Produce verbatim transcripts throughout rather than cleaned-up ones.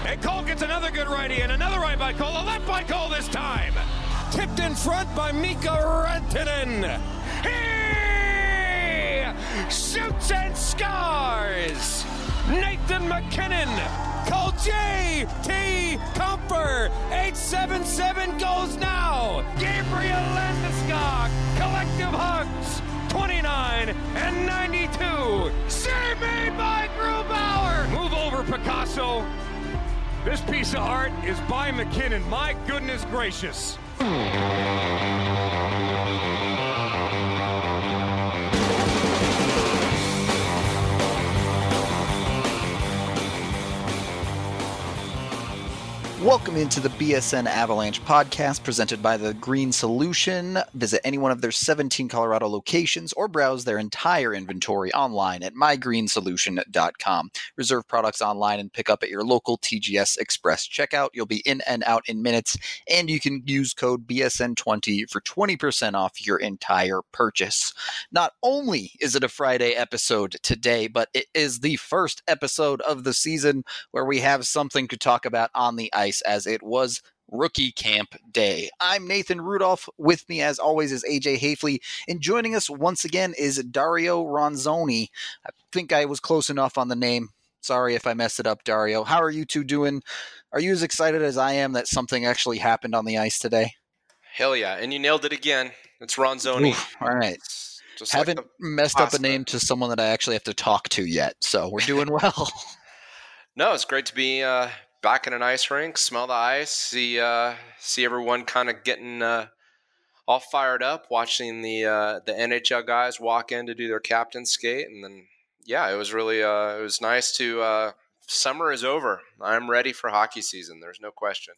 And Cole gets another good righty, and another right by Cole. A left by Cole this time. Tipped in front by Mika Rantanen. He shoots and scores. Nathan MacKinnon. Call J T Comfer. eight seven seven goes now. Gabriel Landeskog. Collective hugs. twenty-nine and ninety-two. Save made by Grubauer. Move over, Picasso. This piece of art is by MacKinnon. My goodness gracious. Welcome into the B S N Avalanche podcast presented by The Green Solution. Visit any one of their seventeen Colorado locations or browse their entire inventory online at my green solution dot com. Reserve products online and pick up at your local T G S Express checkout. You'll be in and out in minutes, and you can use code B S N twenty for twenty percent off your entire purchase. Not only is it a Friday episode today, but it is the first episode of the season where we have something to talk about on the ice, as it was Rookie Camp Day. I'm Nathan Rudolph. With me, as always, is A J Hafley, and joining us once again is Dario Ronzoni. I think I was close enough on the name. Sorry if I messed it up, Dario. How are you two doing? Are you as excited as I am that something actually happened on the ice today? Hell yeah, and you nailed it again. It's Ronzoni. Oof, all right. Just Haven't like messed pasta. up a name to someone that I actually have to talk to yet, so we're doing well. No, it's great to be uh, back in an ice rink, smell the ice, see uh, see everyone kind of getting uh, all fired up, watching the uh, the N H L guys walk in to do their captain skate, and then yeah, it was really uh, it was nice to. Uh, summer is over. I'm ready for hockey season. There's no question.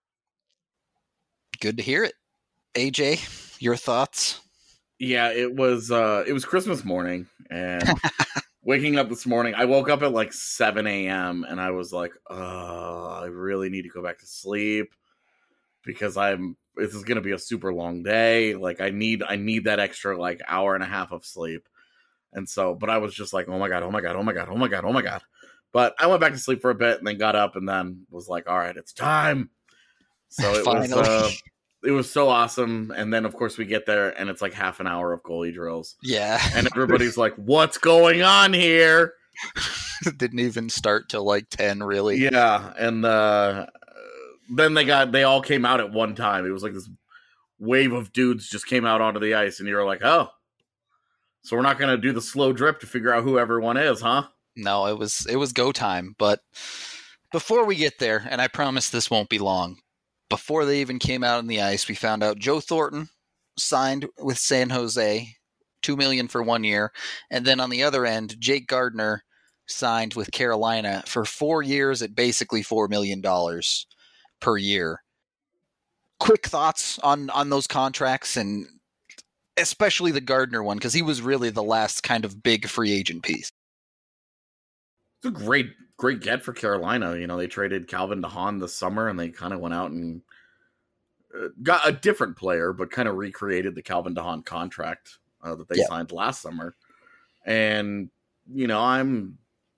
Good to hear it. A J, your thoughts? Yeah, it was uh, it was Christmas morning, and waking up this morning, I woke up at like seven a.m. and I was like, oh, I really need to go back to sleep because I'm this is gonna be a super long day. Like I need I need that extra like hour and a half of sleep. And so, but I was just like, oh my god, oh my god, oh my god, oh my god, oh my god. But I went back to sleep for a bit and then got up and then was like, all right, it's time. So it was uh, it was so awesome. And then of course we get there and it's like half an hour of goalie drills. Yeah. And everybody's like, what's going on here? Didn't even start till like ten, really. Yeah. And uh, then they got, they all came out at one time. It was like this wave of dudes just came out onto the ice and you're like, oh, so we're not going to do the slow drip to figure out who everyone is, huh? No, it was, it was go time. But before we get there, and I promise this won't be long, before they even came out on the ice, we found out Joe Thornton signed with San Jose, two million dollars for one year. And then on the other end, Jake Gardiner signed with Carolina for four years at basically four million dollars per year. Quick thoughts on, on those contracts, and especially the Gardiner one, because he was really the last kind of big free agent piece. It's a great, great get for Carolina. You know, they traded Calvin DeHaan this summer, and they kind of went out and uh, got a different player, but kind of recreated the Calvin DeHaan contract uh, that they yeah. signed last summer. And, you know, I'm...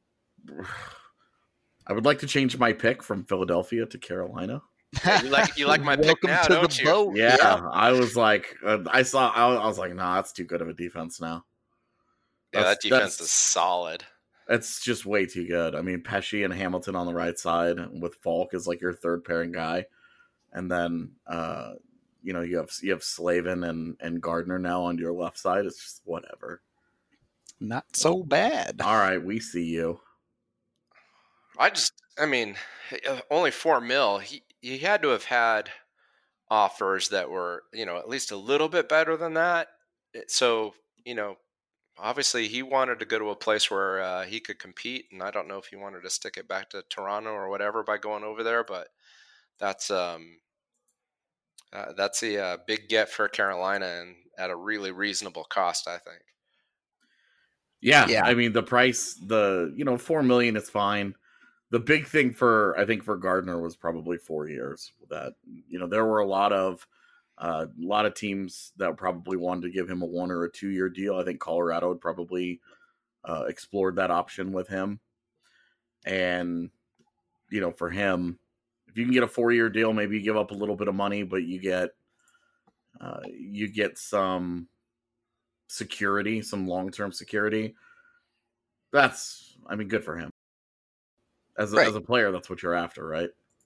I would like to change my pick from Philadelphia to Carolina. You like you like my pick Welcome now, to don't the you? boat. Yeah, Yeah. I was like, uh, I saw, I was, I was like, nah, that's too good of a defense now. Yeah, that That's- defense that's- is solid. It's just way too good. I mean, Pesci and Hamilton on the right side with Falk as like your third pairing guy. And then, uh, you know, you have, you have Slavin and, and Gardner now on your left side. It's just whatever. Not so bad. All right. We see you. I just, I mean, only four mil. He he had to have had offers that were, you know, at least a little bit better than that. So, you know, obviously he wanted to go to a place where uh, he could compete, and I don't know if he wanted to stick it back to Toronto or whatever by going over there, but that's um uh, that's a uh, big get for Carolina and at a really reasonable cost, I think. Yeah, Yeah. I mean, the price, the, you know, four million is fine. The big thing for, I think for Gardner was probably four years that, you know, there were a lot of, uh, a lot of teams that probably wanted to give him a one or a two year deal. I think Colorado had probably uh, explored that option with him. And, you know, for him, if you can get a four-year deal, maybe you give up a little bit of money, but you get uh, you get some security, some long-term security. That's, I mean, good for him. As a, Right. as a player, that's what you're after, right?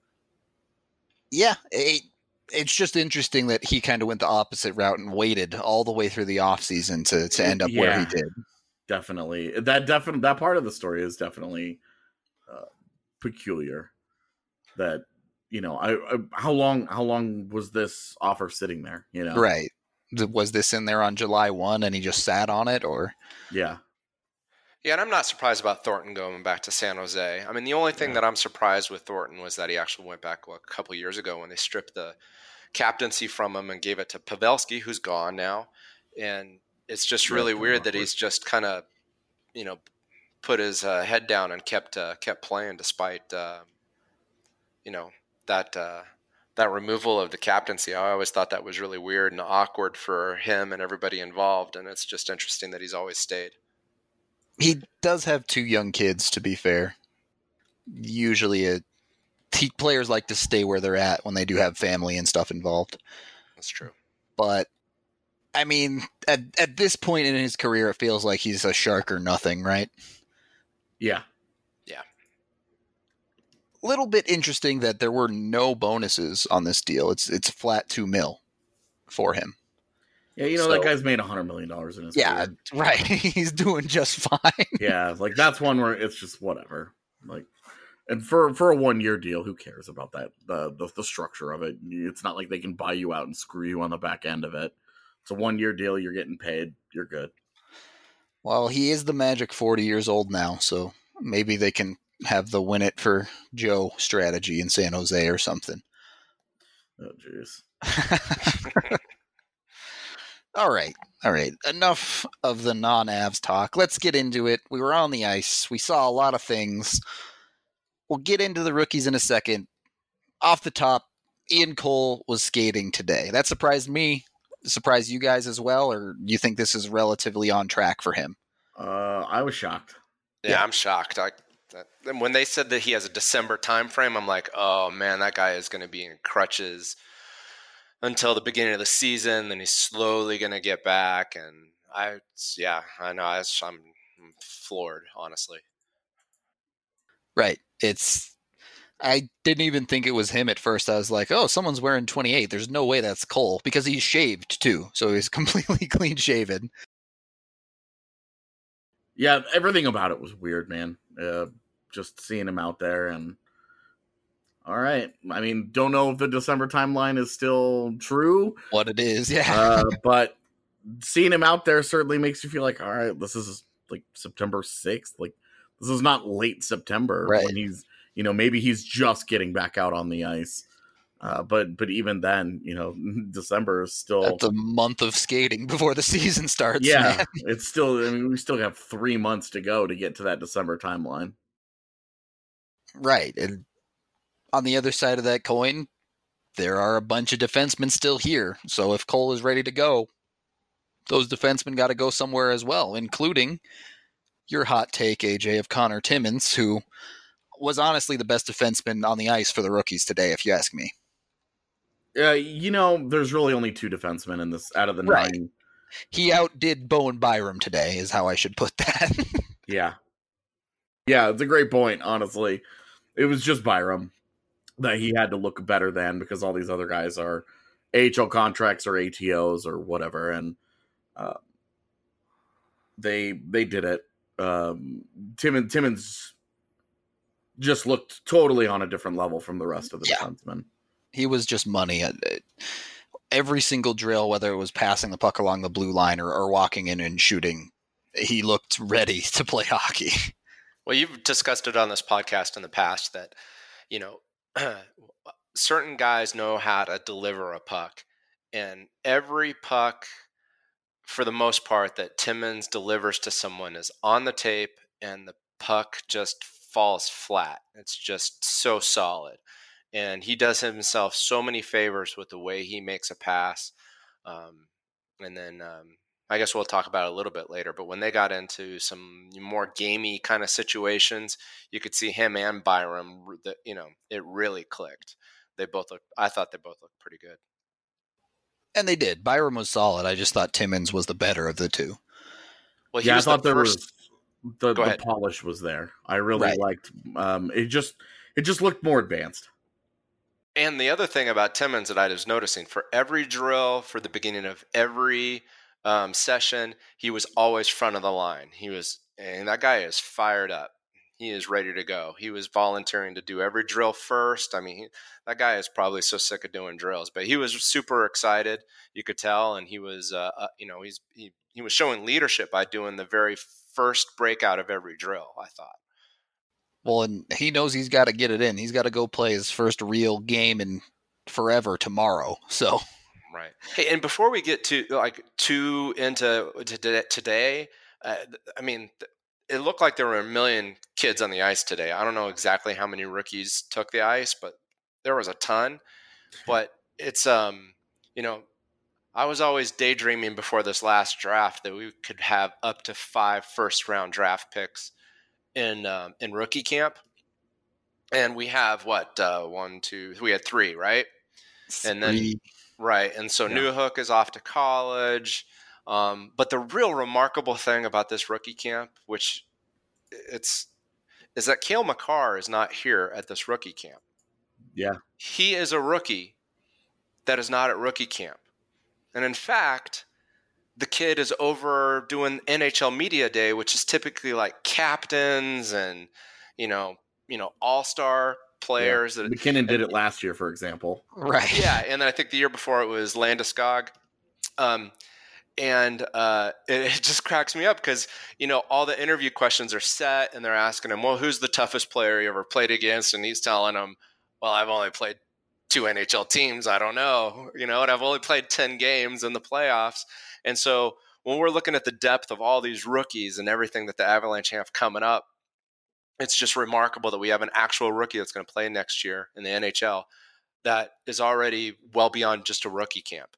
Yeah, it, it's just interesting that he kind of went the opposite route and waited all the way through the offseason to to end up Yeah. where he did. Definitely. That definitely that part of the story is definitely uh, peculiar. That, you know, I, I how long how long was this offer sitting there? You know, Right. Was this in there on July first and he just sat on it, or? Yeah. Yeah, and I'm not surprised about Thornton going back to San Jose. I mean, the only thing Yeah. that I'm surprised with Thornton was that he actually went back what, a couple of years ago when they stripped the captaincy from him and gave it to Pavelski, who's gone now. And it's just really Yeah, weird that awkward. he's just kind of, you know, put his uh, head down and kept uh, kept playing despite, uh, you know, that uh, that removal of the captaincy. I always thought that was really weird and awkward for him and everybody involved. And it's just interesting that he's always stayed. He does have two young kids, to be fair. Usually a, he, players like to stay where they're at when they do have family and stuff involved. That's true. But, I mean, at, at this point in his career, it feels like he's a shark or nothing, right? Yeah. Yeah. Little bit interesting that there were no bonuses on this deal. It's it's flat two mil for him. Yeah, you know, So- that guy's made a hundred million dollars in his Yeah, career. right. He's doing just fine. Yeah, like that's one where it's just whatever. Like, and for for a one year deal, who cares about that? The, the the structure of it. It's not like they can buy you out and screw you on the back end of it. It's a one year deal. You're getting paid. You're good. Well, he is the Magic forty years old now, so maybe they can have the win it for Joe strategy in San Jose or something. Oh, jeez. All right. All right. Enough of the non-Avs talk. Let's get into it. We were on the ice. We saw a lot of things. We'll get into the rookies in a second. Off the top, Ian Cole was skating today. That surprised me. Surprised you guys as well, or you think this is relatively on track for him? Uh, I was shocked. Yeah, Yeah. I'm shocked. I, that, and when they said that he has a December time frame, I'm like, oh man, that guy is going to be in crutches until the beginning of the season. Then he's slowly going to get back. And I, yeah, I know. I, I'm floored, honestly. Right. It's. I didn't even think it was him at first. I was like, oh, someone's wearing twenty-eight. There's no way that's Cole, because he's shaved too. So he's completely clean shaven. Yeah, everything about it was weird, man. Uh, just seeing him out there and all right. I mean, don't know if the December timeline is still true, What it is, yeah. uh, but seeing him out there certainly makes you feel like, all right, this is like September sixth. Like, this is not late September Right. when he's, you know, maybe he's just getting back out on the ice. Uh, but but even then, you know, December is still That's a month of skating before the season starts. yeah, man. it's still. I mean, we still have three months to go to get to that December timeline. Right. And on the other side of that coin, there are a bunch of defensemen still here. So if Cole is ready to go, those defensemen got to go somewhere as well, including your hot take, A J, of Connor Timmins, who was honestly the best defenseman on the ice for the rookies today, if you ask me. Uh, you know, there's really only two defensemen in this out of the Right. nine. He outdid Bowen Byram today, is how I should put that. Yeah, yeah, it's a great point. Honestly, it was just Byram that he had to look better than because all these other guys are A H L contracts or A T Os or whatever, and uh, they they did it. Um, Timmins Timmins just looked totally on a different level from the rest of the Yeah. defensemen. He was just money. Every single drill, whether it was passing the puck along the blue line or, or walking in and shooting, he looked ready to play hockey. Well, you've discussed it on this podcast in the past that, you know, certain guys know how to deliver a puck. And every puck, for the most part, that Timmins delivers to someone is on the tape and the puck just falls flat. It's just so solid. And he does himself so many favors with the way he makes a pass. Um, and then, um, I guess we'll talk about it a little bit later, but when they got into some more gamey kind of situations, you could see him and Byram, you know, it really clicked. They both look, I thought they both looked pretty good. And they did. Byram was solid. I just thought Timmins was the better of the two. Well, he yeah, was I thought the there first... was the, the polish was there. I really right. liked um it just it just looked more advanced. And the other thing about Timmins that I was noticing, for every drill, for the beginning of every um, session, he was always front of the line. He was, and that guy is fired up. He is ready to go. He was volunteering to do every drill first. I mean, he, that guy is probably so sick of doing drills, but he was super excited. You could tell, and he was, uh, uh, you know, he's he he was showing leadership by doing the very first breakout of every drill, I thought. Well, and he knows he's got to get it in. He's got to go play his first real game in forever tomorrow. So, right. Hey, and before we get to like too into to today, uh, I mean, it looked like there were a million kids on the ice today. I don't know exactly how many rookies took the ice, but there was a ton. But it's um, you know, I was always daydreaming before this last draft that we could have up to five first round draft picks in um, in rookie camp, and we have what uh, one, two, we had three, right? three. And then right, and so yeah. Newhook is off to college. Um, but the real remarkable thing about this rookie camp, which it's, is that Cale Makar is not here at this rookie camp. Yeah, he is a rookie that is not at rookie camp, and in fact, the kid is over doing N H L Media Day, which is typically like captains and, you know, you know, all-star players. Yeah. That, McKinnon and, did it last year, for example. Right. Yeah, and then I think the year before it was Landeskog. Um, and uh, it, it just cracks me up because, you know, all the interview questions are set and they're asking him, well, who's the toughest player you ever played against? And he's telling them, well, I've only played two N H L teams. I don't know, you know, and I've only played ten games in the playoffs. And so when we're looking at the depth of all these rookies and everything that the Avalanche have coming up, it's just remarkable that we have an actual rookie that's going to play next year in the N H L that is already well beyond just a rookie camp.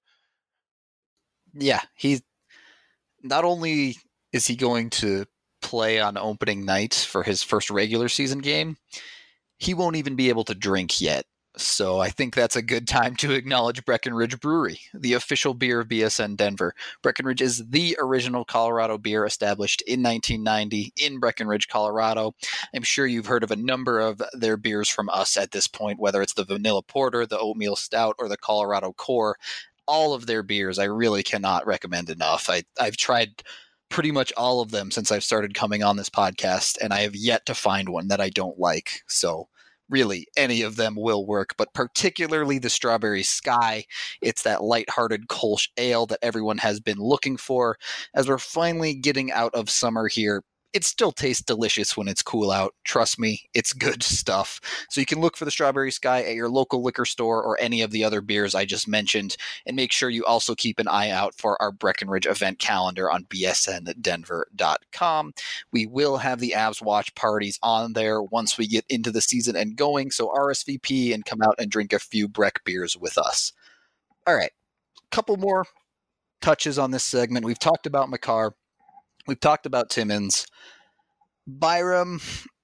Yeah, he's not only is he going to play on opening night for his first regular season game, he won't even be able to drink yet. So I think that's a good time to acknowledge Breckenridge Brewery, the official beer of B S N Denver. Breckenridge is the original Colorado beer established in nineteen ninety in Breckenridge, Colorado. I'm sure you've heard of a number of their beers from us at this point, whether it's the Vanilla Porter, the Oatmeal Stout, or the Colorado Core. All of their beers I really cannot recommend enough. I, I've tried pretty much all of them since I've started coming on this podcast, and I have yet to find one that I don't like. So really, any of them will work, but particularly the Strawberry Sky. It's that lighthearted Kolsch ale that everyone has been looking for. As we're finally getting out of summer here, it still tastes delicious when it's cool out. Trust me, it's good stuff. So you can look for the Strawberry Sky at your local liquor store or any of the other beers I just mentioned, and make sure you also keep an eye out for our Breckenridge event calendar on b s n denver dot com. We will have the Avs watch parties on there once we get into the season and going, so R S V P and come out and drink a few Breck beers with us. All right, a couple more touches on this segment. We've talked about Makar. We've talked about Timmins. Byram,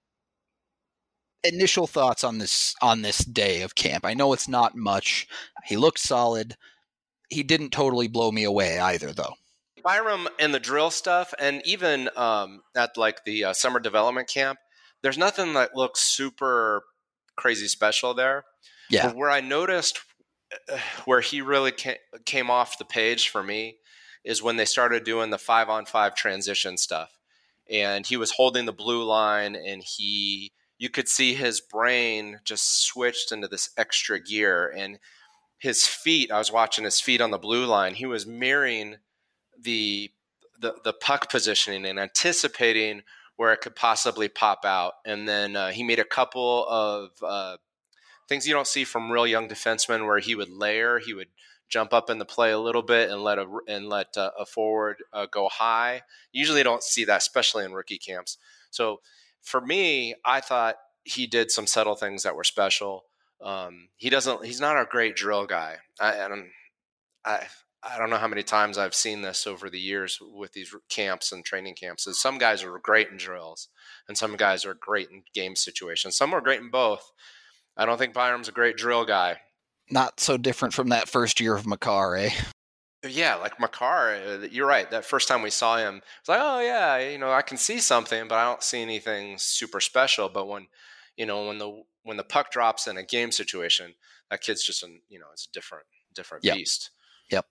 initial thoughts on this on this day of camp. I know it's not much. He looked solid. He didn't totally blow me away either, though. Byram and the drill stuff, and even um, at like the uh, summer development camp, there's nothing that looks super crazy special there. Yeah. But where I noticed uh, where he really came, came off the page for me is when they started doing the five on five transition stuff. And he was holding the blue line, and he, you could see his brain just switched into this extra gear, and his feet, I was watching his feet on the blue line. He was mirroring the, the, the puck positioning and anticipating where it could possibly pop out. And then uh, he made a couple of uh, things you don't see from real young defensemen where he would layer, he would jump up in the play a little bit and let a and let a, a forward uh, go high. Usually don't see that, especially in rookie camps. So for me, I thought he did some subtle things that were special. Um, he doesn't. He's not a great drill guy. I, I don't. I I don't know how many times I've seen this over the years with these camps and training camps. Is some guys are great in drills, and some guys are great in game situations. Some are great in both. I don't think Byram's a great drill guy. Not so different from that first year of Makar, eh? Yeah, like Makar, you're right. That first time we saw him, it's like, oh yeah, you know, I can see something, but I don't see anything super special. But when, you know, when the when the puck drops in a game situation, that kid's just an, you know, it's a different different Yep. beast. Yep.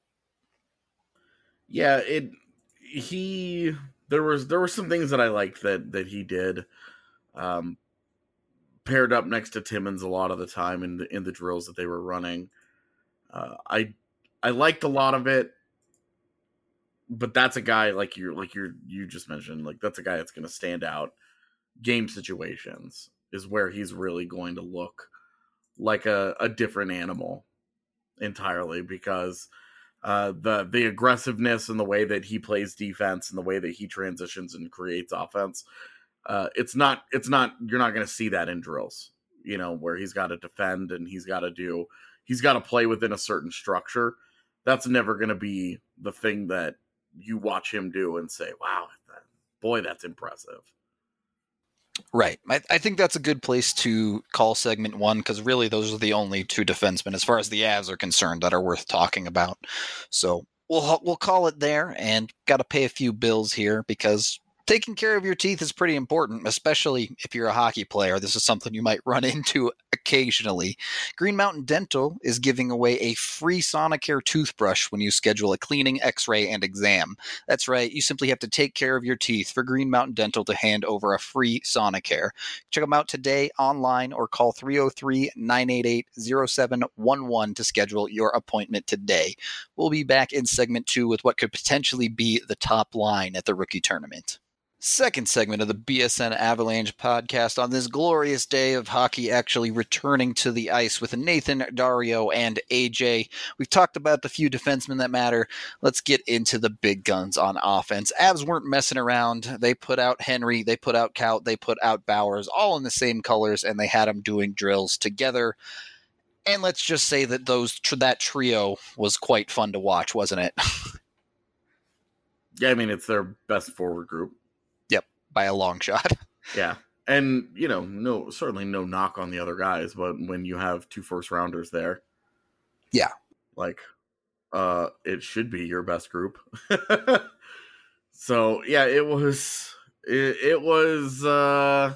Yeah, it he there was there were some things that I liked that that he did. Um, paired up next to Timmins a lot of the time in the in the drills that they were running. Uh, I I liked a lot of it, but that's a guy like you're like you're you just mentioned, like that's a guy that's going to stand out. Game situations is where he's really going to look like a, a different animal entirely, because uh, the the aggressiveness and the way that he plays defense and the way that he transitions and creates offense, uh, it's not it's not you're not going to see that in drills, you know, where he's got to defend and he's got to do he's got to play within a certain structure. That's never going to be the thing that you watch him do and say, wow, that, boy, that's impressive. Right. I, I think that's a good place to call segment one, because really those are the only two defensemen, as far as the Avs are concerned, that are worth talking about. So we'll we'll call it there, and got to pay a few bills here, because taking care of your teeth is pretty important, especially if you're a hockey player. This is something you might run into occasionally. Green Mountain Dental is giving away a free Sonicare toothbrush when you schedule a cleaning, x-ray, and exam. That's right, you simply have to take care of your teeth for Green Mountain Dental to hand over a free Sonicare. Check them out today online or call three oh three, nine eight eight, oh seven one one to schedule your appointment today. We'll be back in segment two with what could potentially be the top line at the rookie tournament. Second segment of the B S N Avalanche podcast on this glorious day of hockey actually returning to the ice with Nathan, Dario, and A J. We've talked about the few defensemen that matter. Let's get into the big guns on offense. Avs weren't messing around. They put out Henry, they put out Kaut, they put out Bowers, all in the same colors, and they had them doing drills together. And let's just say that those that trio was quite fun to watch, wasn't it? Yeah, I mean, it's their best forward group. By a long shot. Yeah. And, you know, no, certainly no knock on the other guys, but when you have two first rounders there. Yeah. Like, uh, it should be your best group. So, yeah, it was, it, it was, uh,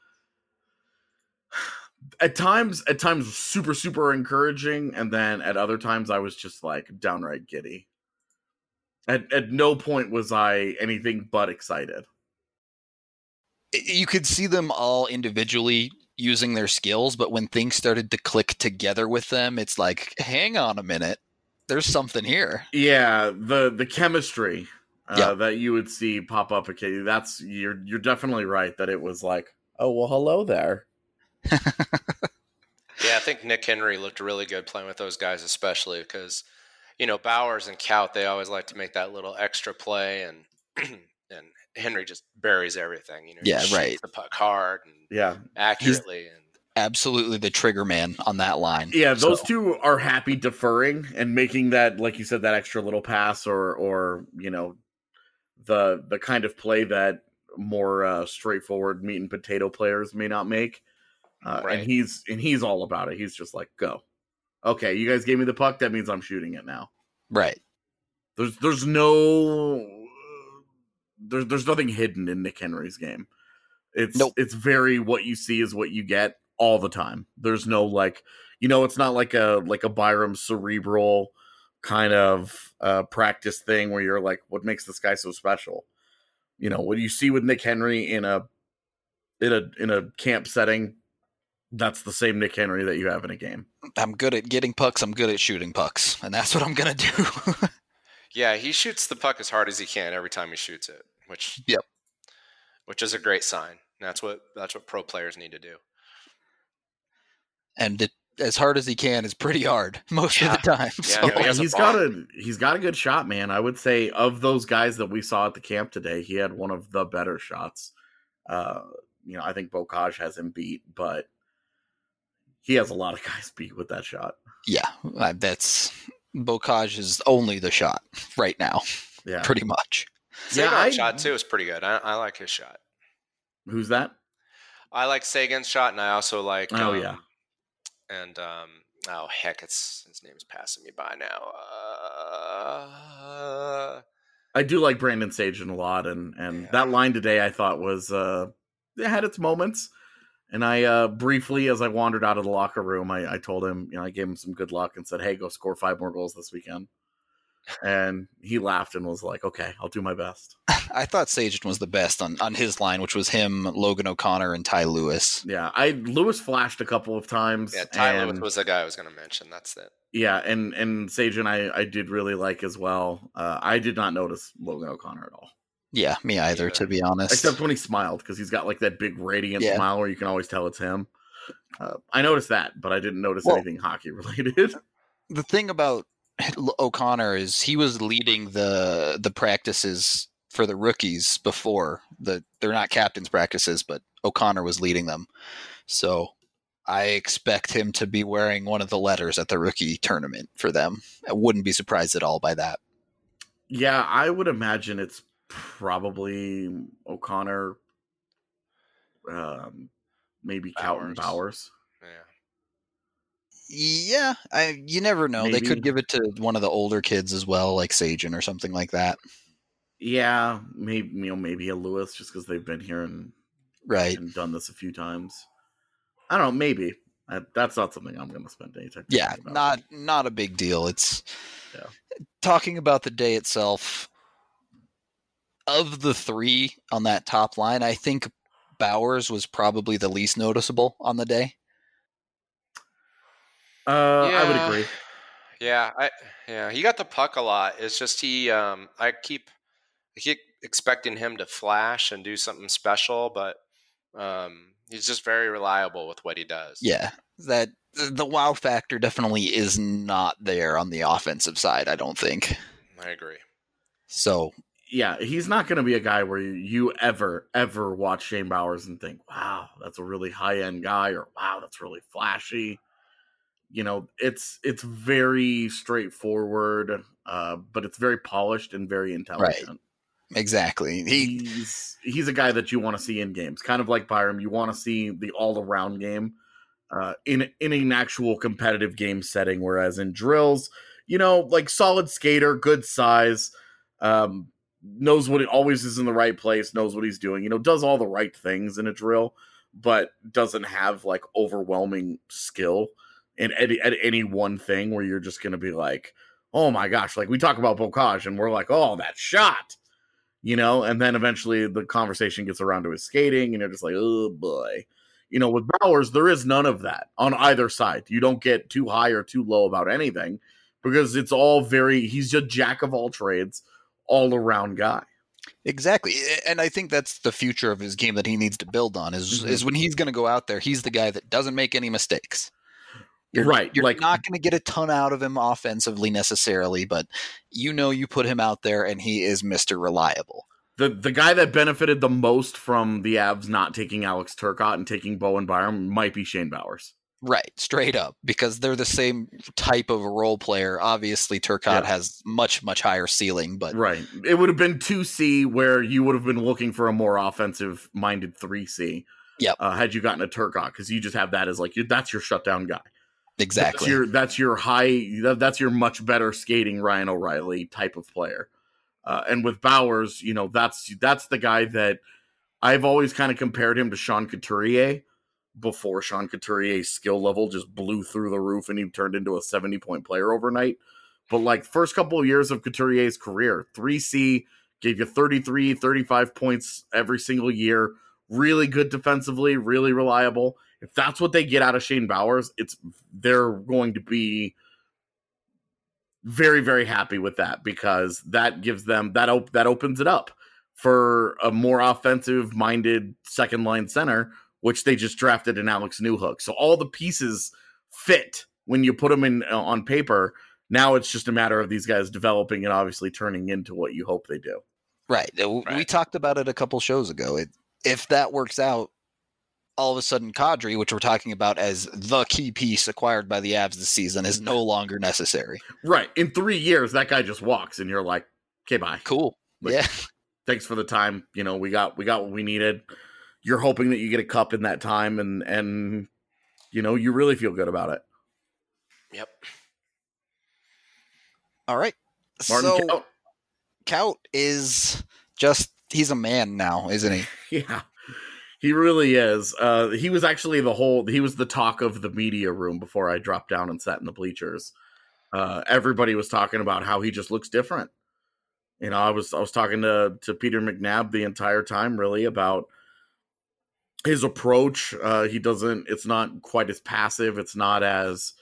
at times, at times super, super encouraging. And then at other times I was just like downright giddy. At, at no point was I anything but excited. You could see them all individually using their skills, but when things started to click together with them, it's like, hang on a minute, there's something here. Yeah, the the chemistry uh, yeah. that you would see pop up occasionally. That's you're you're definitely right that it was like, oh well, hello there. Yeah, I think Nick Henry looked really good playing with those guys, especially because, you know, Bowers and Kaut, they always like to make that little extra play, and and Henry just buries everything. You know, yeah, he right. the puck hard and yeah, accurately, He's and absolutely the trigger man on that line. Yeah, those so. two are happy deferring and making that, like you said, that extra little pass, or or you know, the the kind of play that more uh, straightforward meat and potato players may not make. Uh, right. And he's and he's all about it. He's just like, go. Okay, you guys gave me the puck. That means I'm shooting it now. Right. There's there's no there's there's nothing hidden in Nick Henry's game. It's nope. It's very what you see is what you get all the time. There's no like, you know, it's not like a like a Byram cerebral kind of uh, practice thing where you're like, what makes this guy so special? You know, what you see with Nick Henry in a in a in a camp setting, that's the same Nick Henry that you have in a game. I'm good at getting pucks. I'm good at shooting pucks, and that's what I'm gonna do. Yeah, he shoots the puck as hard as he can every time he shoots it, which yep, which is a great sign. That's what that's what pro players need to do. And it, as hard as he can is pretty hard most yeah. of the time. Yeah, so. no, he has he's a got a he's got a good shot, man. I would say of those guys that we saw at the camp today, he had one of the better shots. Uh, you know, I think Bocage has him beat, but he has a lot of guys beat with that shot. Yeah, that's Bocage is only the shot right now, Yeah. pretty much. Sagan's Yeah, I- shot too is pretty good. I, I like his shot. Who's that? I like Sagan's shot, and I also like. Oh, um, yeah. And um, oh heck, it's his name's passing me by now. Uh, I do like Brandon Sagan a lot, and and Yeah. that line today I thought was uh, it had its moments. And I uh, briefly, as I wandered out of the locker room, I, I told him, you know, I gave him some good luck and said, "Hey, go score five more goals this weekend." And he laughed and was like, "Okay, I'll do my best." I thought Sagan was the best on, on his line, which was him, Logan O'Connor, and Ty Lewis. Yeah, I Lewis flashed a couple of times. yeah, Tyler and, was the guy I was going to mention. That's it. yeah, and and Sagan I I did really like as well. Uh, I did not notice Logan O'Connor at all, Yeah, me either, Either. to be honest. except when he smiled, because he's got like that big radiant Yeah. smile where you can always tell it's him. Uh, I noticed that, but I didn't notice Well- anything hockey related. The thing about O'Connor is he was leading the the practices for the rookies before. The they're not captain's practices, but O'Connor was leading them. So I expect him to be wearing one of the letters at the rookie tournament for them. I wouldn't be surprised at all by that. Yeah, I would imagine it's probably O'Connor, um, maybe Calton Bowers. Bowers. Yeah. Yeah, I you never know. They Maybe. could give it to one of the older kids as well, like Sagan or something like that. Yeah, maybe you know maybe a Lewis, just because they've been here and, Right. and done this a few times. I don't know. Maybe I, that's not something I'm going to spend any time. Yeah, thinking about. not not a big deal. It's Yeah. talking about the day itself. Of the three on that top line, I think Bowers was probably the least noticeable on the day. Uh, I would Yeah. agree. Yeah, I yeah, he got the puck a lot. It's just he um I keep I keep expecting him to flash and do something special, but um he's just very reliable with what he does. Yeah, that the wow factor definitely is not there on the offensive side, I don't think. I agree. So, Yeah, he's not going to be a guy where you, you ever ever watch Shane Bowers and think, "Wow, that's a really high end guy," or "Wow, that's really flashy." You know, it's it's very straightforward, uh, but it's very polished and very intelligent. exactly. He He's he's a guy that you want to see in games, kind of like Byram. You want to see the all around game uh, in in an actual competitive game setting. Whereas in drills, you know, like solid skater, good size, um, knows what it always is in the right place, knows what he's doing. You know, does all the right things in a drill, but doesn't have like overwhelming skill in any, at any one thing where you're just going to be like, oh my gosh, like we talk about Bocage and we're like, oh, that shot, you know, and then eventually the conversation gets around to his skating and you're just like, oh boy. You know, with Bowers, there is none of that on either side. You don't get too high or too low about anything because it's all very, he's just jack of all trades, all around guy. exactly, and I think that's the future of his game that he needs to build on. Is Mhm. is when he's going to go out there, he's the guy that doesn't make any mistakes. You're, Right, You're like- not going to get a ton out of him offensively necessarily, but you know you put him out there and he is Mister Reliable. The the guy that benefited the most from the Avs not taking Alex Turcotte and taking Bowen Byram might be Shane Bowers. Right, straight up, because they're the same type of a role player. Obviously, Turcotte Yeah. has much, much higher ceiling, but Right. It would have been two C where you would have been looking for a more offensive minded three C. Yep. Uh, had you gotten a Turcotte, because you just have that as like, you, that's your shutdown guy. exactly. That's your, that's your high, that, that's your much better skating Ryan O'Reilly type of player. Uh, and with Bowers, you know, that's, that's the guy that I've always kind of compared him to Sean Couturier before Sean Couturier's skill level just blew through the roof and he turned into a seventy point player overnight. But like first couple of years of Couturier's career, three C gave you thirty-three, thirty-five points every single year. Really good defensively, really reliable. If that's what they get out of Shane Bowers, it's they're going to be very, very happy with that because that gives them that op- that opens it up for a more offensive minded second line center, which they just drafted in Alex Newhook. So all the pieces fit when you put them in uh, on paper. Now it's just a matter of these guys developing and obviously turning into what you hope they do. Right. Uh, We Right. talked about it a couple shows ago. It, if that works out, all of a sudden Kadri, which we're talking about as the key piece acquired by the Avs this season, is no longer necessary. Right. In three years, that guy just walks, and you're like, okay, bye. Cool. Like, yeah. Thanks for the time. You know, we got we got what we needed. You're hoping that you get a cup in that time, and and you know, you really feel good about it. Yep. All right. Martin so Kaut. Kaut is just, he's a man now, isn't he? Yeah. He really is. Uh, he was actually the whole, he was the talk of the media room before I dropped down and sat in the bleachers. Uh, everybody was talking about how he just looks different. You know, I was, I was talking to, to Peter McNabb the entire time, really, about his approach. Uh, he doesn't, it's not quite as passive. It's not as,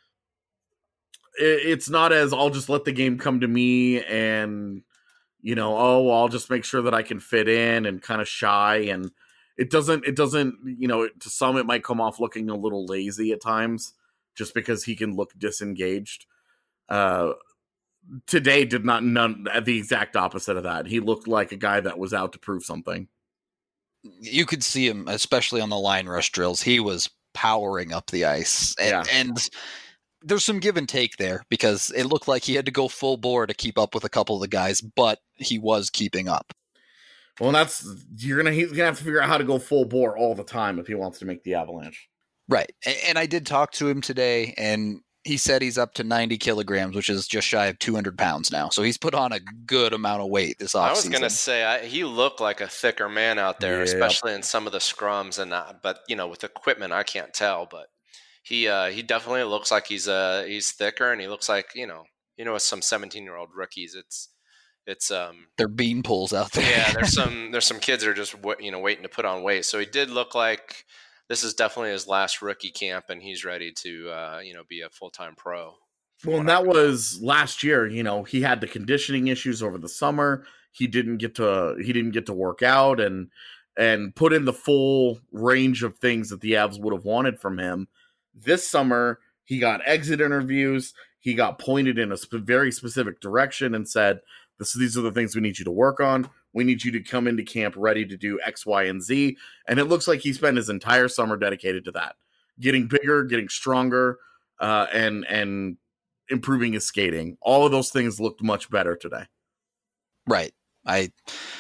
it, it's not as, I'll just let the game come to me and, you know, oh, well, I'll just make sure that I can fit in, and kind of shy. And it doesn't, it doesn't, you know, to some, it might come off looking a little lazy at times just because he can look disengaged. Uh, today did not, none, the exact opposite of that. He looked like a guy that was out to prove something. You could see him, especially on the line rush drills. He was powering up the ice. And, Yeah. and there's some give and take there, because it looked like he had to go full bore to keep up with a couple of the guys, but he was keeping up. Well, and that's, you're gonna he's gonna have to figure out how to go full bore all the time if he wants to make the Avalanche. Right. And, and I did talk to him today, and he said he's up to ninety kilograms, which is just shy of two hundred pounds now. So he's put on a good amount of weight this offseason. I was going to say, I, he looked like a thicker man out there, Yeah. especially in some of the scrums. And uh, but, you know, with equipment, I can't tell. But he uh, he definitely looks like he's uh, he's thicker, and he looks like, you know, you know, with some seventeen-year-old rookies, it's, it's um They're bean pools out there. yeah, there's some there's some kids that are just, you know, waiting to put on weight. So he did look like this is definitely his last rookie camp, and he's ready to, uh, you know, be a full-time pro. Well, and that was last year. You know, he had the conditioning issues over the summer. He didn't get to he didn't get to work out and and put in the full range of things that the Avs would have wanted from him. This summer, he got exit interviews. He got pointed in a sp- very specific direction and said, "This these are the things we need you to work on. We need you to come into camp ready to do X, Y, and Z." And it looks like he spent his entire summer dedicated to that, getting bigger, getting stronger, uh, and and improving his skating. All of those things looked much better today. Right. I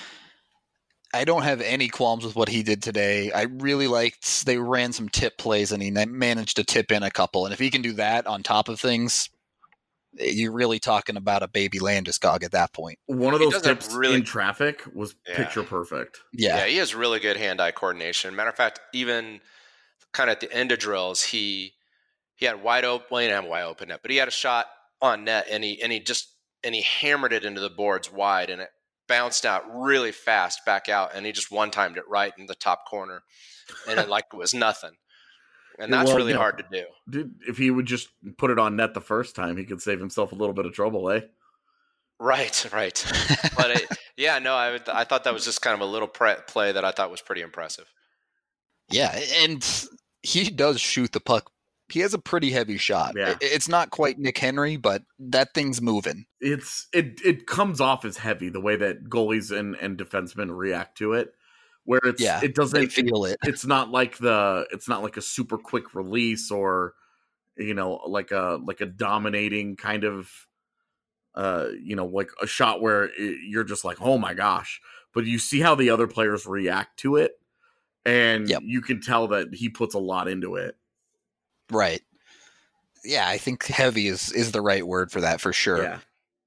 I don't have any qualms with what he did today. I really liked, they ran some tip plays, and he managed to tip in a couple. And if he can do that on top of things, you're really talking about a baby Landeskog at that point. One of He those doesn't tips really- in traffic was Yeah. picture perfect. Yeah. Yeah, he has really good hand-eye coordination. Matter of fact, even kind of at the end of drills, he he had wide open, well, he didn't have wide open net, but he had a shot on net, and he and he just and he hammered it into the boards wide, and it bounced out really fast back out, and he just one-timed it right in the top corner, and it like it was nothing. And that's Well, really no. hard to do. Dude, if he would just put it on net the first time, he could save himself a little bit of trouble, eh? Right, right. But it, yeah, no, I would- I thought that was just kind of a little pre- play that I thought was pretty impressive. Yeah, and he does shoot the puck. He has a pretty heavy shot. Yeah. It- It's not quite Nick Henry, but that thing's moving. It's it it comes off as heavy the way that goalies and, and defensemen react to it. Where it's Yeah, it They doesn't feel it. it's not like the it's not like a super quick release or you know like a like a dominating kind of uh you know like a shot where it, you're just like, oh my gosh, but you see how the other players react to it, and Yep. you can tell that he puts a lot into it. Right. Yeah, I think heavy is, is the right word for that for sure. Yeah.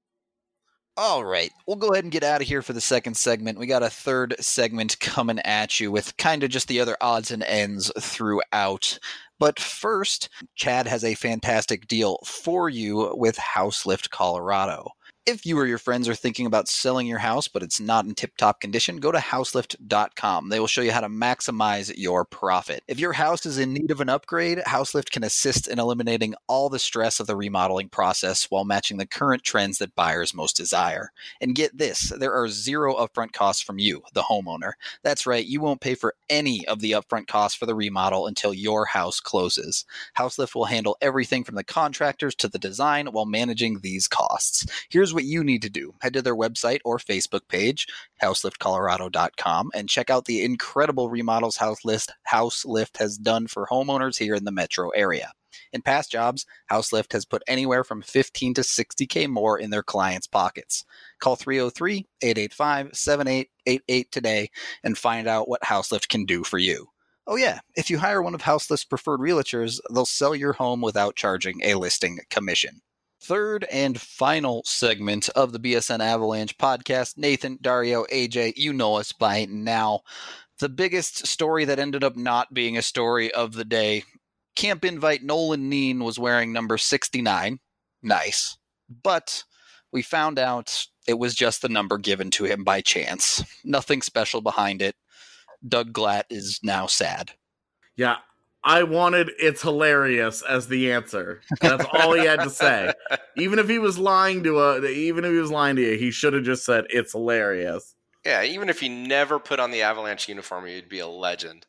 All right, we'll go ahead and get out of here for the second segment. We got a third segment coming at you with kind of just the other odds and ends throughout. But first, Chad has a fantastic deal for you with Houselift Colorado. If you or your friends are thinking about selling your house, but it's not in tip-top condition, go to houselift dot com. They will show you how to maximize your profit. If your house is in need of an upgrade, Houselift can assist in eliminating all the stress of the remodeling process while matching the current trends that buyers most desire. And get this, there are zero upfront costs from you, the homeowner. That's right, you won't pay for any of the upfront costs for the remodel until your house closes. Houselift will handle everything from the contractors to the design while managing these costs. Here's what you need to do. Head to their website or Facebook page, house lift colorado dot com, and check out the incredible remodels House Lift, House Lift has done for homeowners here in the metro area. In past jobs, House Lift has put anywhere from fifteen to sixty K more in their clients' pockets. Call three oh three, eight eight five, seven eight eight eight today and find out what House Lift can do for you. Oh yeah, if you hire one of House Lift's preferred realtors, they'll sell your home without charging a listing commission. Third and final segment of the B S N Avalanche podcast. Nathan, Dario, A J, you know us by now. The biggest story that ended up not being a story of the day. Camp invite Nolan Neen was wearing number sixty-nine. Nice. But we found out it was just the number given to him by chance. Nothing special behind it. Doug Glatt is now sad. Yeah, I wanted "it's hilarious" as the answer. That's all he had to say. Even if he was lying to a, even if he was lying to you, he should have just said "it's hilarious." Yeah, even if he never put on the Avalanche uniform, he'd be a legend.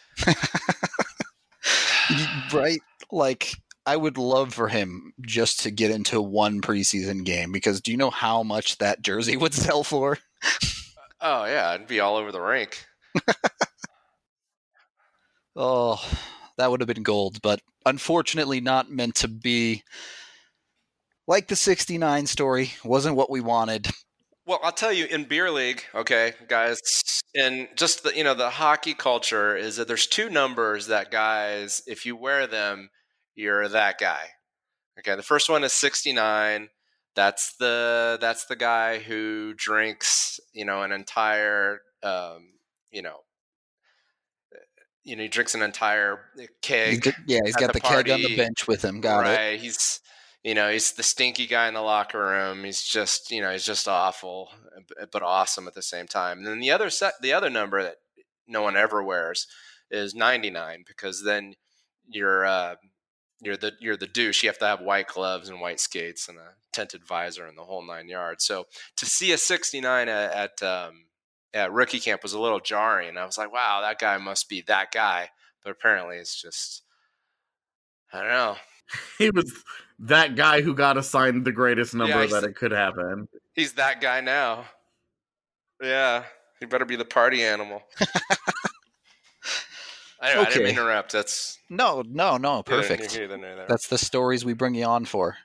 Right? Like, I would love for him just to get into one preseason game, because do you know how much that jersey would sell for? Oh, yeah, it'd be all over the rink. Oh, that would have been gold, but unfortunately not meant to be. Like the sixty-nine story, wasn't what we wanted. Well, I'll tell you, in beer league, okay, guys, and just the, you know, the hockey culture is that there's two numbers that guys, if you wear them, you're that guy. Okay, the first one is sixty-nine. That's the that's the guy who drinks, you know, an entire, um, you know, you know, he drinks an entire keg. He's got, yeah, he's got the, the keg on the bench with him. Got right. it. Right. He's, you know, he's the stinky guy in the locker room. He's just, you know, he's just awful, but awesome at the same time. And then the other set, the other number that no one ever wears is ninety-nine, because then you're, uh, you're the, you're the douche. You have to have white gloves and white skates and a tinted visor and the whole nine yards. So to see a sixty-nine at, at um, at rookie camp was a little jarring. I was like, wow, that guy must be that guy. But apparently it's just, I don't know. He was that guy who got assigned the greatest number yeah, that it could happen. He's that guy now. Yeah. He better be the party animal. Anyway, okay. I didn't interrupt. That's No, no, no. Perfect. Neither, neither, neither. That's the stories we bring you on for.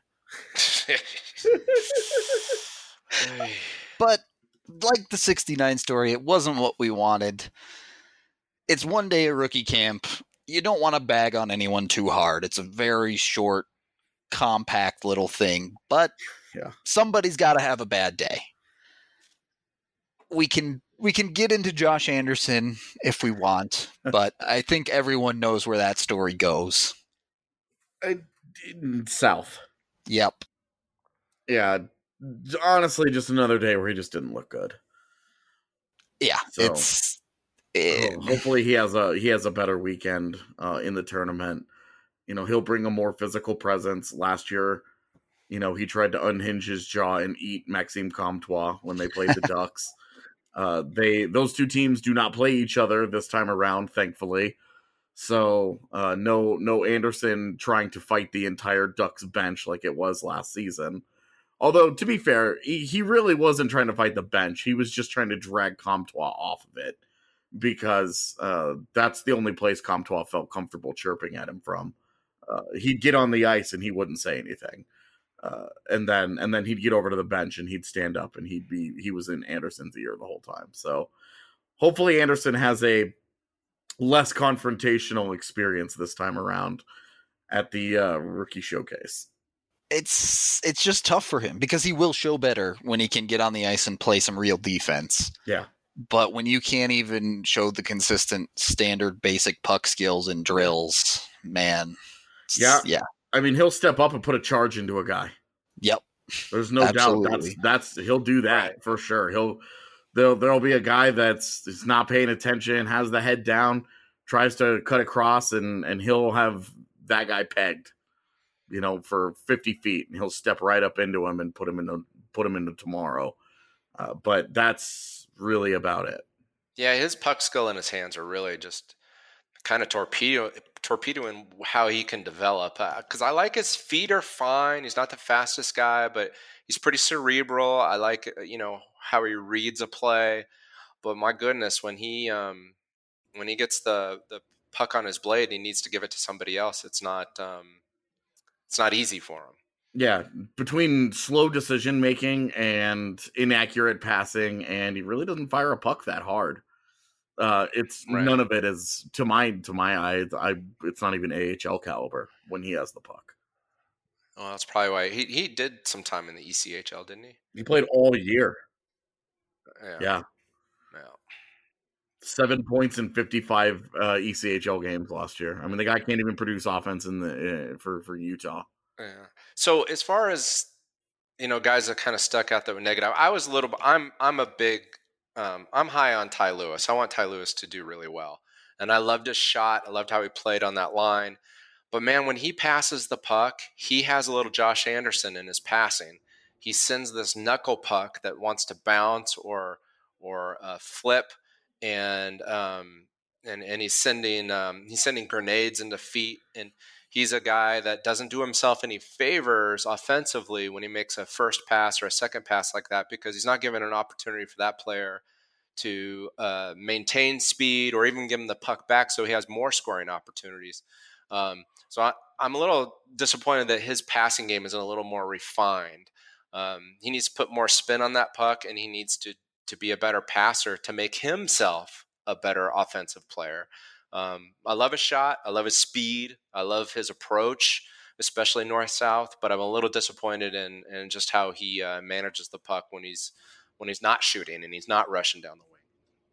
But like the sixty-nine story, it wasn't what we wanted. It's one day at rookie camp. You don't want to bag on anyone too hard. It's a very short, compact little thing. But yeah. Somebody's got to have a bad day. We can we can get into Josh Anderson if we want, but I think everyone knows where that story goes. Uh, south. Yep. Yeah. Honestly, just another day where he just didn't look good. Yeah, so, it's. It, oh, hopefully, he has a he has a better weekend uh, in the tournament. You know, he'll bring a more physical presence. Last year, you know, he tried to unhinge his jaw and eat Maxime Comtois when they played the Ducks. Uh, they those two teams do not play each other this time around, thankfully. So uh, no no Anderson trying to fight the entire Ducks bench like it was last season. Although, to be fair, he, he really wasn't trying to fight the bench. He was just trying to drag Comtois off of it, because uh, that's the only place Comtois felt comfortable chirping at him from. Uh, he'd get on the ice and he wouldn't say anything. Uh, and then and then he'd get over to the bench and he'd stand up and he'd be he was in Anderson's ear the whole time. So hopefully Anderson has a less confrontational experience this time around at the uh, rookie showcase. It's it's just tough for him, because he will show better when he can get on the ice and play some real defense. Yeah. But when you can't even show the consistent standard basic puck skills and drills, man. Yeah. Yeah. I mean, he'll step up and put a charge into a guy. Yep. There's no Absolutely. doubt that's that's he'll do that right. for sure. He'll there'll there'll be a guy that's is not paying attention, has the head down, tries to cut across, and and he'll have that guy pegged, you know, for fifty feet, and he'll step right up into him and put him into put him into tomorrow. Uh, but that's really about it. Yeah, his puck skill in his hands are really just kind of torpedo torpedoing how he can develop, because uh, I like his feet are fine. He's not the fastest guy, but he's pretty cerebral. I like, you know, how he reads a play. But my goodness, when he um, when he gets the the puck on his blade, and he needs to give it to somebody else. It's not um, it's not easy for him. Yeah, between slow decision making and inaccurate passing, and he really doesn't fire a puck that hard. Uh, it's right. None of it is to my to my eye. I it's not even A H L caliber when he has the puck. Well, that's probably why he he did some time in the E C H L, didn't he? He played all year. Yeah. Yeah. yeah. Seven points in fifty-five uh, E C H L games last year. I mean, the guy can't even produce offense in the uh, for for Utah. Yeah. So as far as, you know, guys that kind of stuck out that were negative, I was a little. I'm I'm a big. Um, I'm high on Ty Lewis. I want Ty Lewis to do really well, and I loved his shot. I loved how he played on that line. But man, when he passes the puck, he has a little Josh Anderson in his passing. He sends this knuckle puck that wants to bounce or or uh, flip, and um, and and he's sending um, he's sending grenades into feet, and he's a guy that doesn't do himself any favors offensively when he makes a first pass or a second pass like that, because he's not given an opportunity for that player to uh, maintain speed or even give him the puck back so he has more scoring opportunities. Um, so I, I'm a little disappointed that his passing game isn't a little more refined. Um, he needs to put more spin on that puck, and he needs to to be a better passer to make himself a better offensive player. Um, I love his shot. I love his speed. I love his approach, especially north-south. But I'm a little disappointed in, in just how he uh, manages the puck when he's when he's not shooting and he's not rushing down the wing.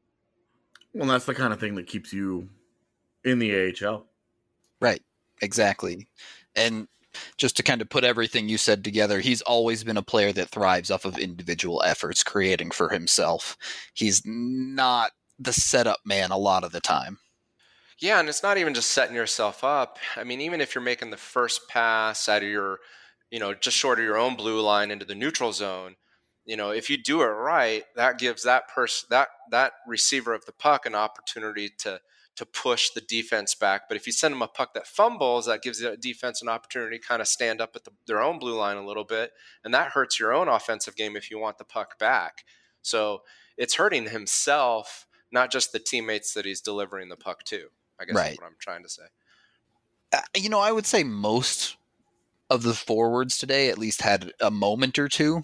Well, that's the kind of thing that keeps you in the A H L. Right. Exactly. And just to kind of put everything you said together, he's always been a player that thrives off of individual efforts, creating for himself. He's not the setup man a lot of the time. Yeah, and it's not even just setting yourself up. I mean, even if you're making the first pass out of your, you know, just short of your own blue line into the neutral zone, you know, if you do it right, that gives that person, that that receiver of the puck an opportunity to to push the defense back. But if you send them a puck that fumbles, that gives the defense an opportunity to kind of stand up at the, their own blue line a little bit, and that hurts your own offensive game if you want the puck back. So it's hurting himself, not just the teammates that he's delivering the puck to. I guess right. That's what I'm trying to say. Uh, you know, I would say most of the forwards today at least had a moment or two.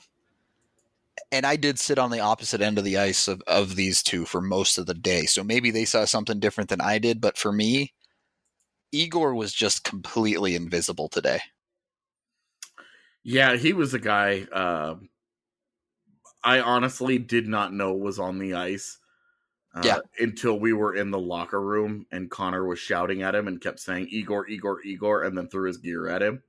And I did sit on the opposite end of the ice of, of these two for most of the day. So maybe they saw something different than I did. But for me, Igor was just completely invisible today. Yeah, he was a guy uh, I honestly did not know was on the ice. Uh, yeah. Until we were in the locker room and Connor was shouting at him and kept saying, Igor, Igor, Igor, and then threw his gear at him.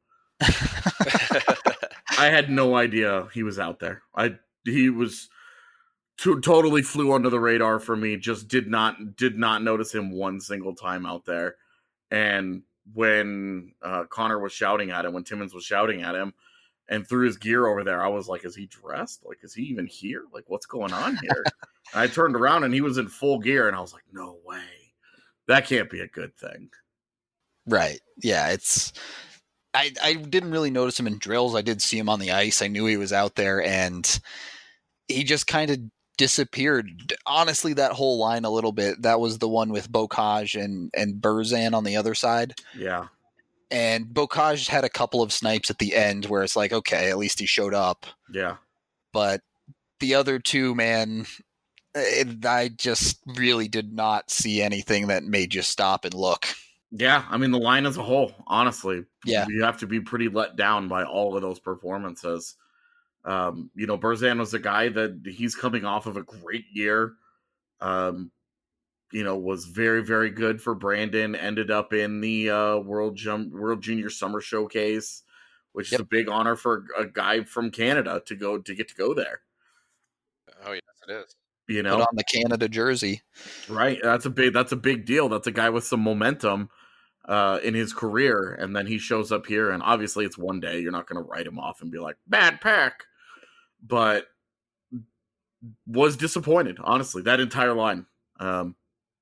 I had no idea he was out there. I He was to, totally flew under the radar for me. Just did not did not notice him one single time out there. And when uh, Connor was shouting at him, when Timmins was shouting at him and threw his gear over there, I was like, is he dressed? Like, is he even here? Like, what's going on here? I turned around and he was in full gear, and I was like, no way. That can't be a good thing. Right. Yeah, it's I, I didn't really notice him in drills. I did see him on the ice. I knew he was out there, and he just kind of disappeared. Honestly, that whole line a little bit, that was the one with Bocage and, and Burzan on the other side. Yeah. And Bocage had a couple of snipes at the end where it's like, okay, at least he showed up. Yeah. But the other two, man, it, I just really did not see anything that made you stop and look. Yeah, I mean, the line as a whole, honestly, yeah, you have to be pretty let down by all of those performances. Um, you know, Burzan was a guy that he's coming off of a great year. Um, you know, was very, very good for Brandon. Ended up in the uh, World Jum- World Junior Summer Showcase, which yep. is a big honor for a guy from Canada to go to get to go there. Oh yes, it is. You know, put on the Canada jersey, right? That's a big. That's a big deal. That's a guy with some momentum uh, in his career, and then he shows up here, and obviously it's one day. You're not going to write him off and be like bad pack, but was disappointed. Honestly, that entire line. Um,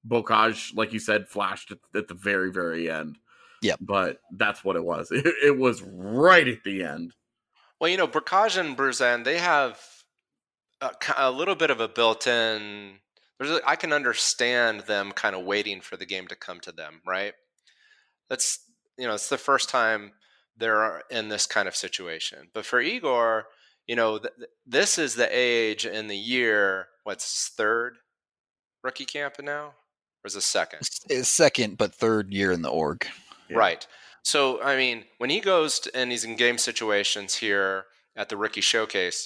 Bocage, like you said, flashed at, at the very, very end. Yep. But that's what it was. It, it was right at the end. Well, you know, Bocage and Bruzan, they have a, a little bit of a built-in. There's a, I can understand them kind of waiting for the game to come to them, right? That's, you know, it's the first time they're in this kind of situation. But for Igor, you know, th- this is the age in the year. What's his third rookie camp now? Or is it second? It's second, but third year in the org. Yeah. Right. So, I mean, when he goes to, and he's in game situations here at the Rookie Showcase,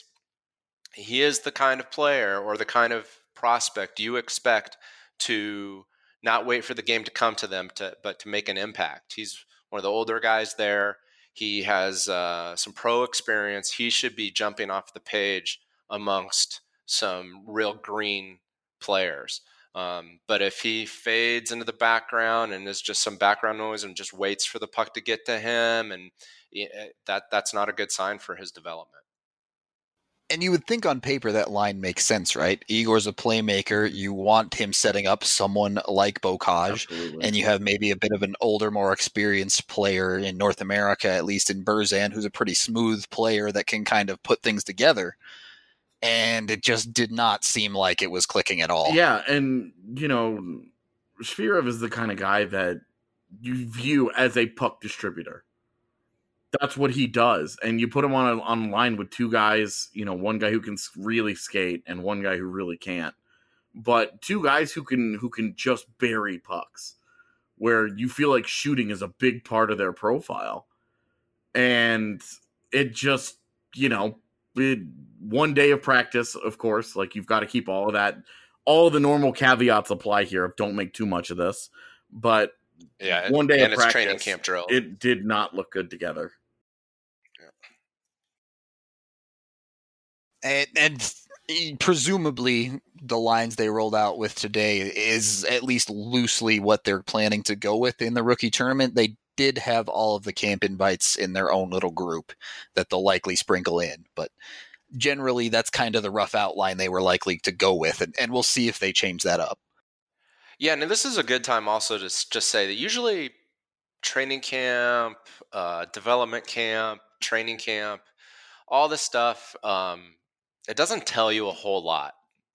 he is the kind of player or the kind of prospect you expect to not wait for the game to come to them, to but to make an impact. He's one of the older guys there. He has uh, some pro experience. He should be jumping off the page amongst some real green players. Um, but if he fades into the background and is just some background noise and just waits for the puck to get to him, and that that's not a good sign for his development. And you would think on paper that line makes sense, right? Igor's a playmaker. You want him setting up someone like Bocage, Absolutely. and you have maybe a bit of an older, more experienced player in North America, at least in Burzan, who's a pretty smooth player that can kind of put things together. And it just did not seem like it was clicking at all. Yeah, and, you know, Shvirov is the kind of guy that you view as a puck distributor. That's what he does. And you put him on a, on a line with two guys, you know, one guy who can really skate and one guy who really can't. But two guys who can who can just bury pucks, where you feel like shooting is a big part of their profile. And it just, you know, it, one day of practice, of course, like you've got to keep all of that. All of the normal caveats apply here. Don't make too much of this. But yeah, one day and of it's practice, training camp drill. It did not look good together. And, and presumably the lines they rolled out with today is at least loosely what they're planning to go with in the rookie tournament. They did have all of the camp invites in their own little group that they'll likely sprinkle in, but generally that's kind of the rough outline they were likely to go with, and, and we'll see if they change that up. Yeah, and this is a good time also to just say that usually training camp, uh, development camp, training camp, all this stuff, um, it doesn't tell you a whole lot.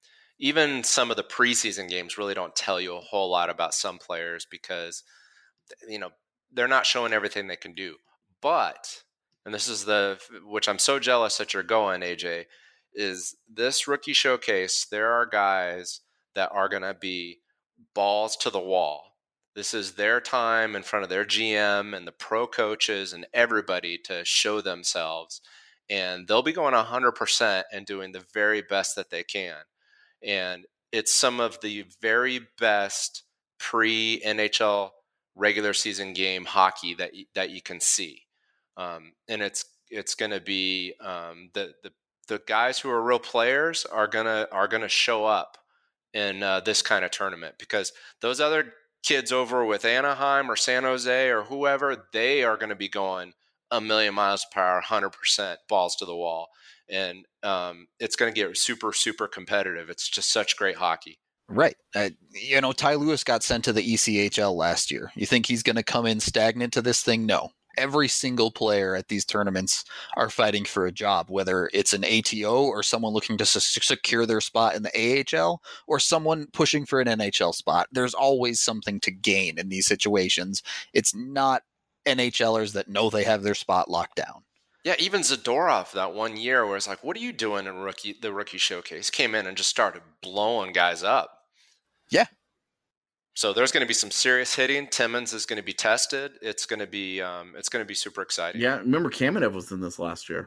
Even some of the preseason games really don't tell you a whole lot about some players because, you know, they're not showing everything they can do. But, and this is the, which I'm so jealous that you're going, A J, is this rookie showcase, there are guys that are going to be balls to the wall. This is their time in front of their G M and the pro coaches and everybody to show themselves. And they'll be going one hundred percent and doing the very best that they can. And it's some of the very best pre-N H L regular season game hockey that you, that you can see. Um, and it's it's going to be um, the, the the guys who are real players are gonna are gonna show up in uh, this kind of tournament, because those other kids over with Anaheim or San Jose or whoever, they are going to be going a million miles per hour, one hundred percent balls to the wall. And um, it's going to get super, super competitive. It's just such great hockey. Right. Uh, you know, Ty Lewis got sent to the E C H L last year. You think he's going to come in stagnant to this thing? No. Every single player at these tournaments are fighting for a job, whether it's an A T O or someone looking to s- secure their spot in the A H L or someone pushing for an N H L spot. There's always something to gain in these situations. It's not NHLers that know they have their spot locked down. Yeah, even Zadorov that one year where it's like, what are you doing in rookie the rookie showcase? Came in and just started blowing guys up. Yeah. So there's going to be some serious hitting. Timmins is going to be tested. It's going to be um, it's going to be super exciting. Yeah, remember Kamenev was in this last year.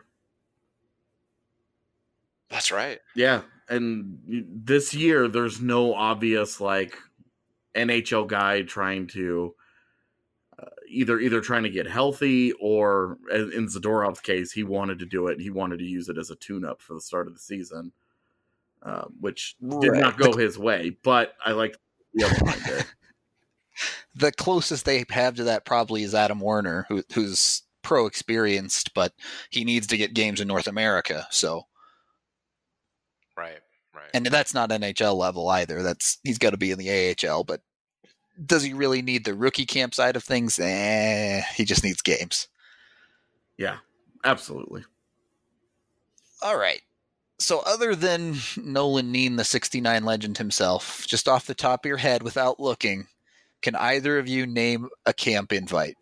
That's right. Yeah, and this year there's no obvious like N H L guy trying to uh, either either trying to get healthy, or in Zadorov's case, he wanted to do it. He wanted to use it as a tune-up for the start of the season, uh, which did Right. not go his way. But I like the other line there. The closest they have to that probably is Adam Werner, who, who's pro experienced, but he needs to get games in North America. So, Right, Right. And that's not N H L level either. That's he's got to be in the A H L. But does he really need the rookie camp side of things? Eh, he just needs games. Yeah, absolutely. All right. So other than Nolan Neen, the sixty-nine legend himself, just off the top of your head without looking, can either of you name a camp invite?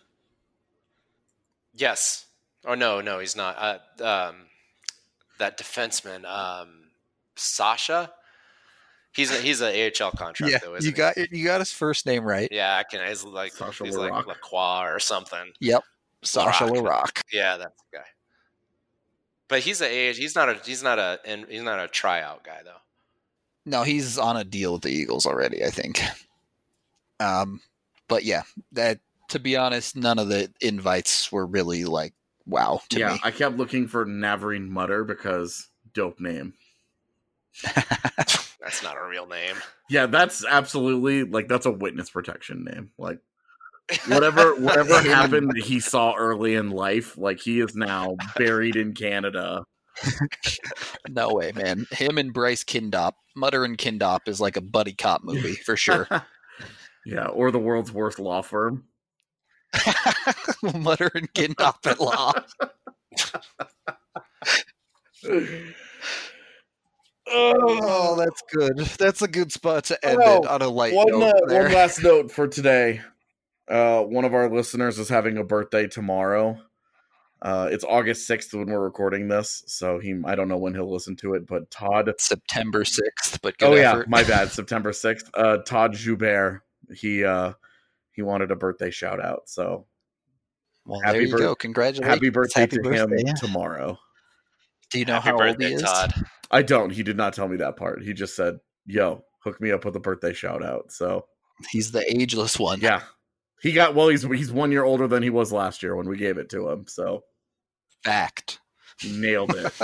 Yes. Oh, no, no, he's not. Uh, um, that defenseman, um, Sasha, he's a, he's an A H L contract, Yeah, though, isn't you he? got you got his first name right. Yeah, I can. He's like Sasha he's like Larocque. Lacroix or something. Yep, Sasha Larocque. Larocque. Yeah, that's the guy. But he's a age. He's not a. He's not a. And he's not a tryout guy though. No, he's on a deal with the Eagles already, I think. Um, but yeah, that to be honest, none of the invites were really like wow to yeah, me. I kept looking for Navarine Mutter because dope name. That's not a real name. Yeah, that's absolutely like that's a witness protection name. Like whatever whatever happened that he saw early in life, like he is now buried in Canada. No way, man. Him and Bryce Kindop, Mutter and Kindop is like a buddy cop movie for sure. Yeah, or the world's worst law firm. Mutter and Kindop at law. Oh, that's good. That's a good spot to end Oh, it on a light One, note. uh, there. one last note for today. Uh, one of our listeners is having a birthday tomorrow. Uh, it's August sixth when we're recording this, so he I don't know when he'll listen to it, but Todd September sixth, but good Oh effort. yeah, my bad. September sixth. Uh, Todd Joubert. He uh, he wanted a birthday shout out. So Well, happy there you bir- go. Congratulations. happy birthday Happy to birthday. him tomorrow. Do you know Happy how birthday, old he is? Todd. I don't. He did not tell me that part. He just said, "Yo, hook me up with a birthday shout out." So He's the ageless one. yeah, he got well. He's he's one year older than he was last year when we gave it to him. So Fact. he nailed it.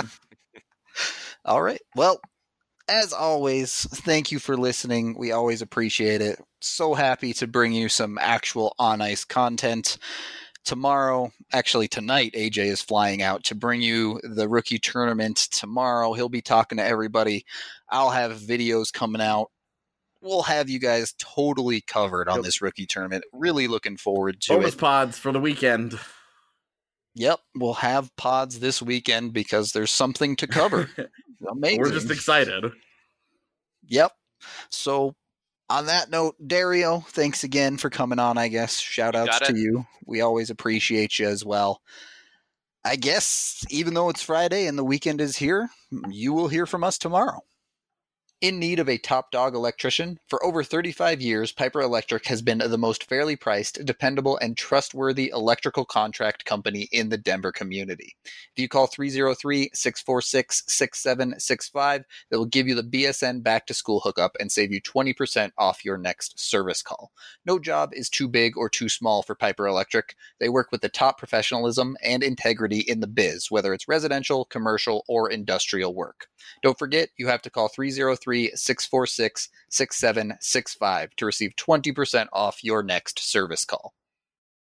All right. Well, as always, thank you for listening. We always appreciate it. So happy to bring you some actual on ice content. Tomorrow, actually tonight, A J is flying out to bring you the rookie tournament tomorrow. He'll be talking to everybody. I'll have videos coming out. We'll have you guys totally covered on Yep. this rookie tournament. Really looking forward to Bonus it. pods for the weekend. Yep, we'll have pods this weekend because there's something to cover. Amazing. We're just excited. Yep. So on that note, Dario, thanks again for coming on, I guess. Shout outs got to it. you. We always appreciate you as well. I guess even though it's Friday and the weekend is here, you will hear from us tomorrow. In need of a top dog electrician? For over thirty-five years, Piper Electric has been the most fairly priced, dependable, and trustworthy electrical contract company in the Denver community. If you call three oh three, six four six, six seven six five, they will give you the B S N back to school hookup and save you twenty percent off your next service call. No job is too big or too small for Piper Electric. They work with the top professionalism and integrity in the biz, whether it's residential, commercial, or industrial work. Don't forget, you have to call three oh three, six four six, six seven six five to receive twenty percent off your next service call.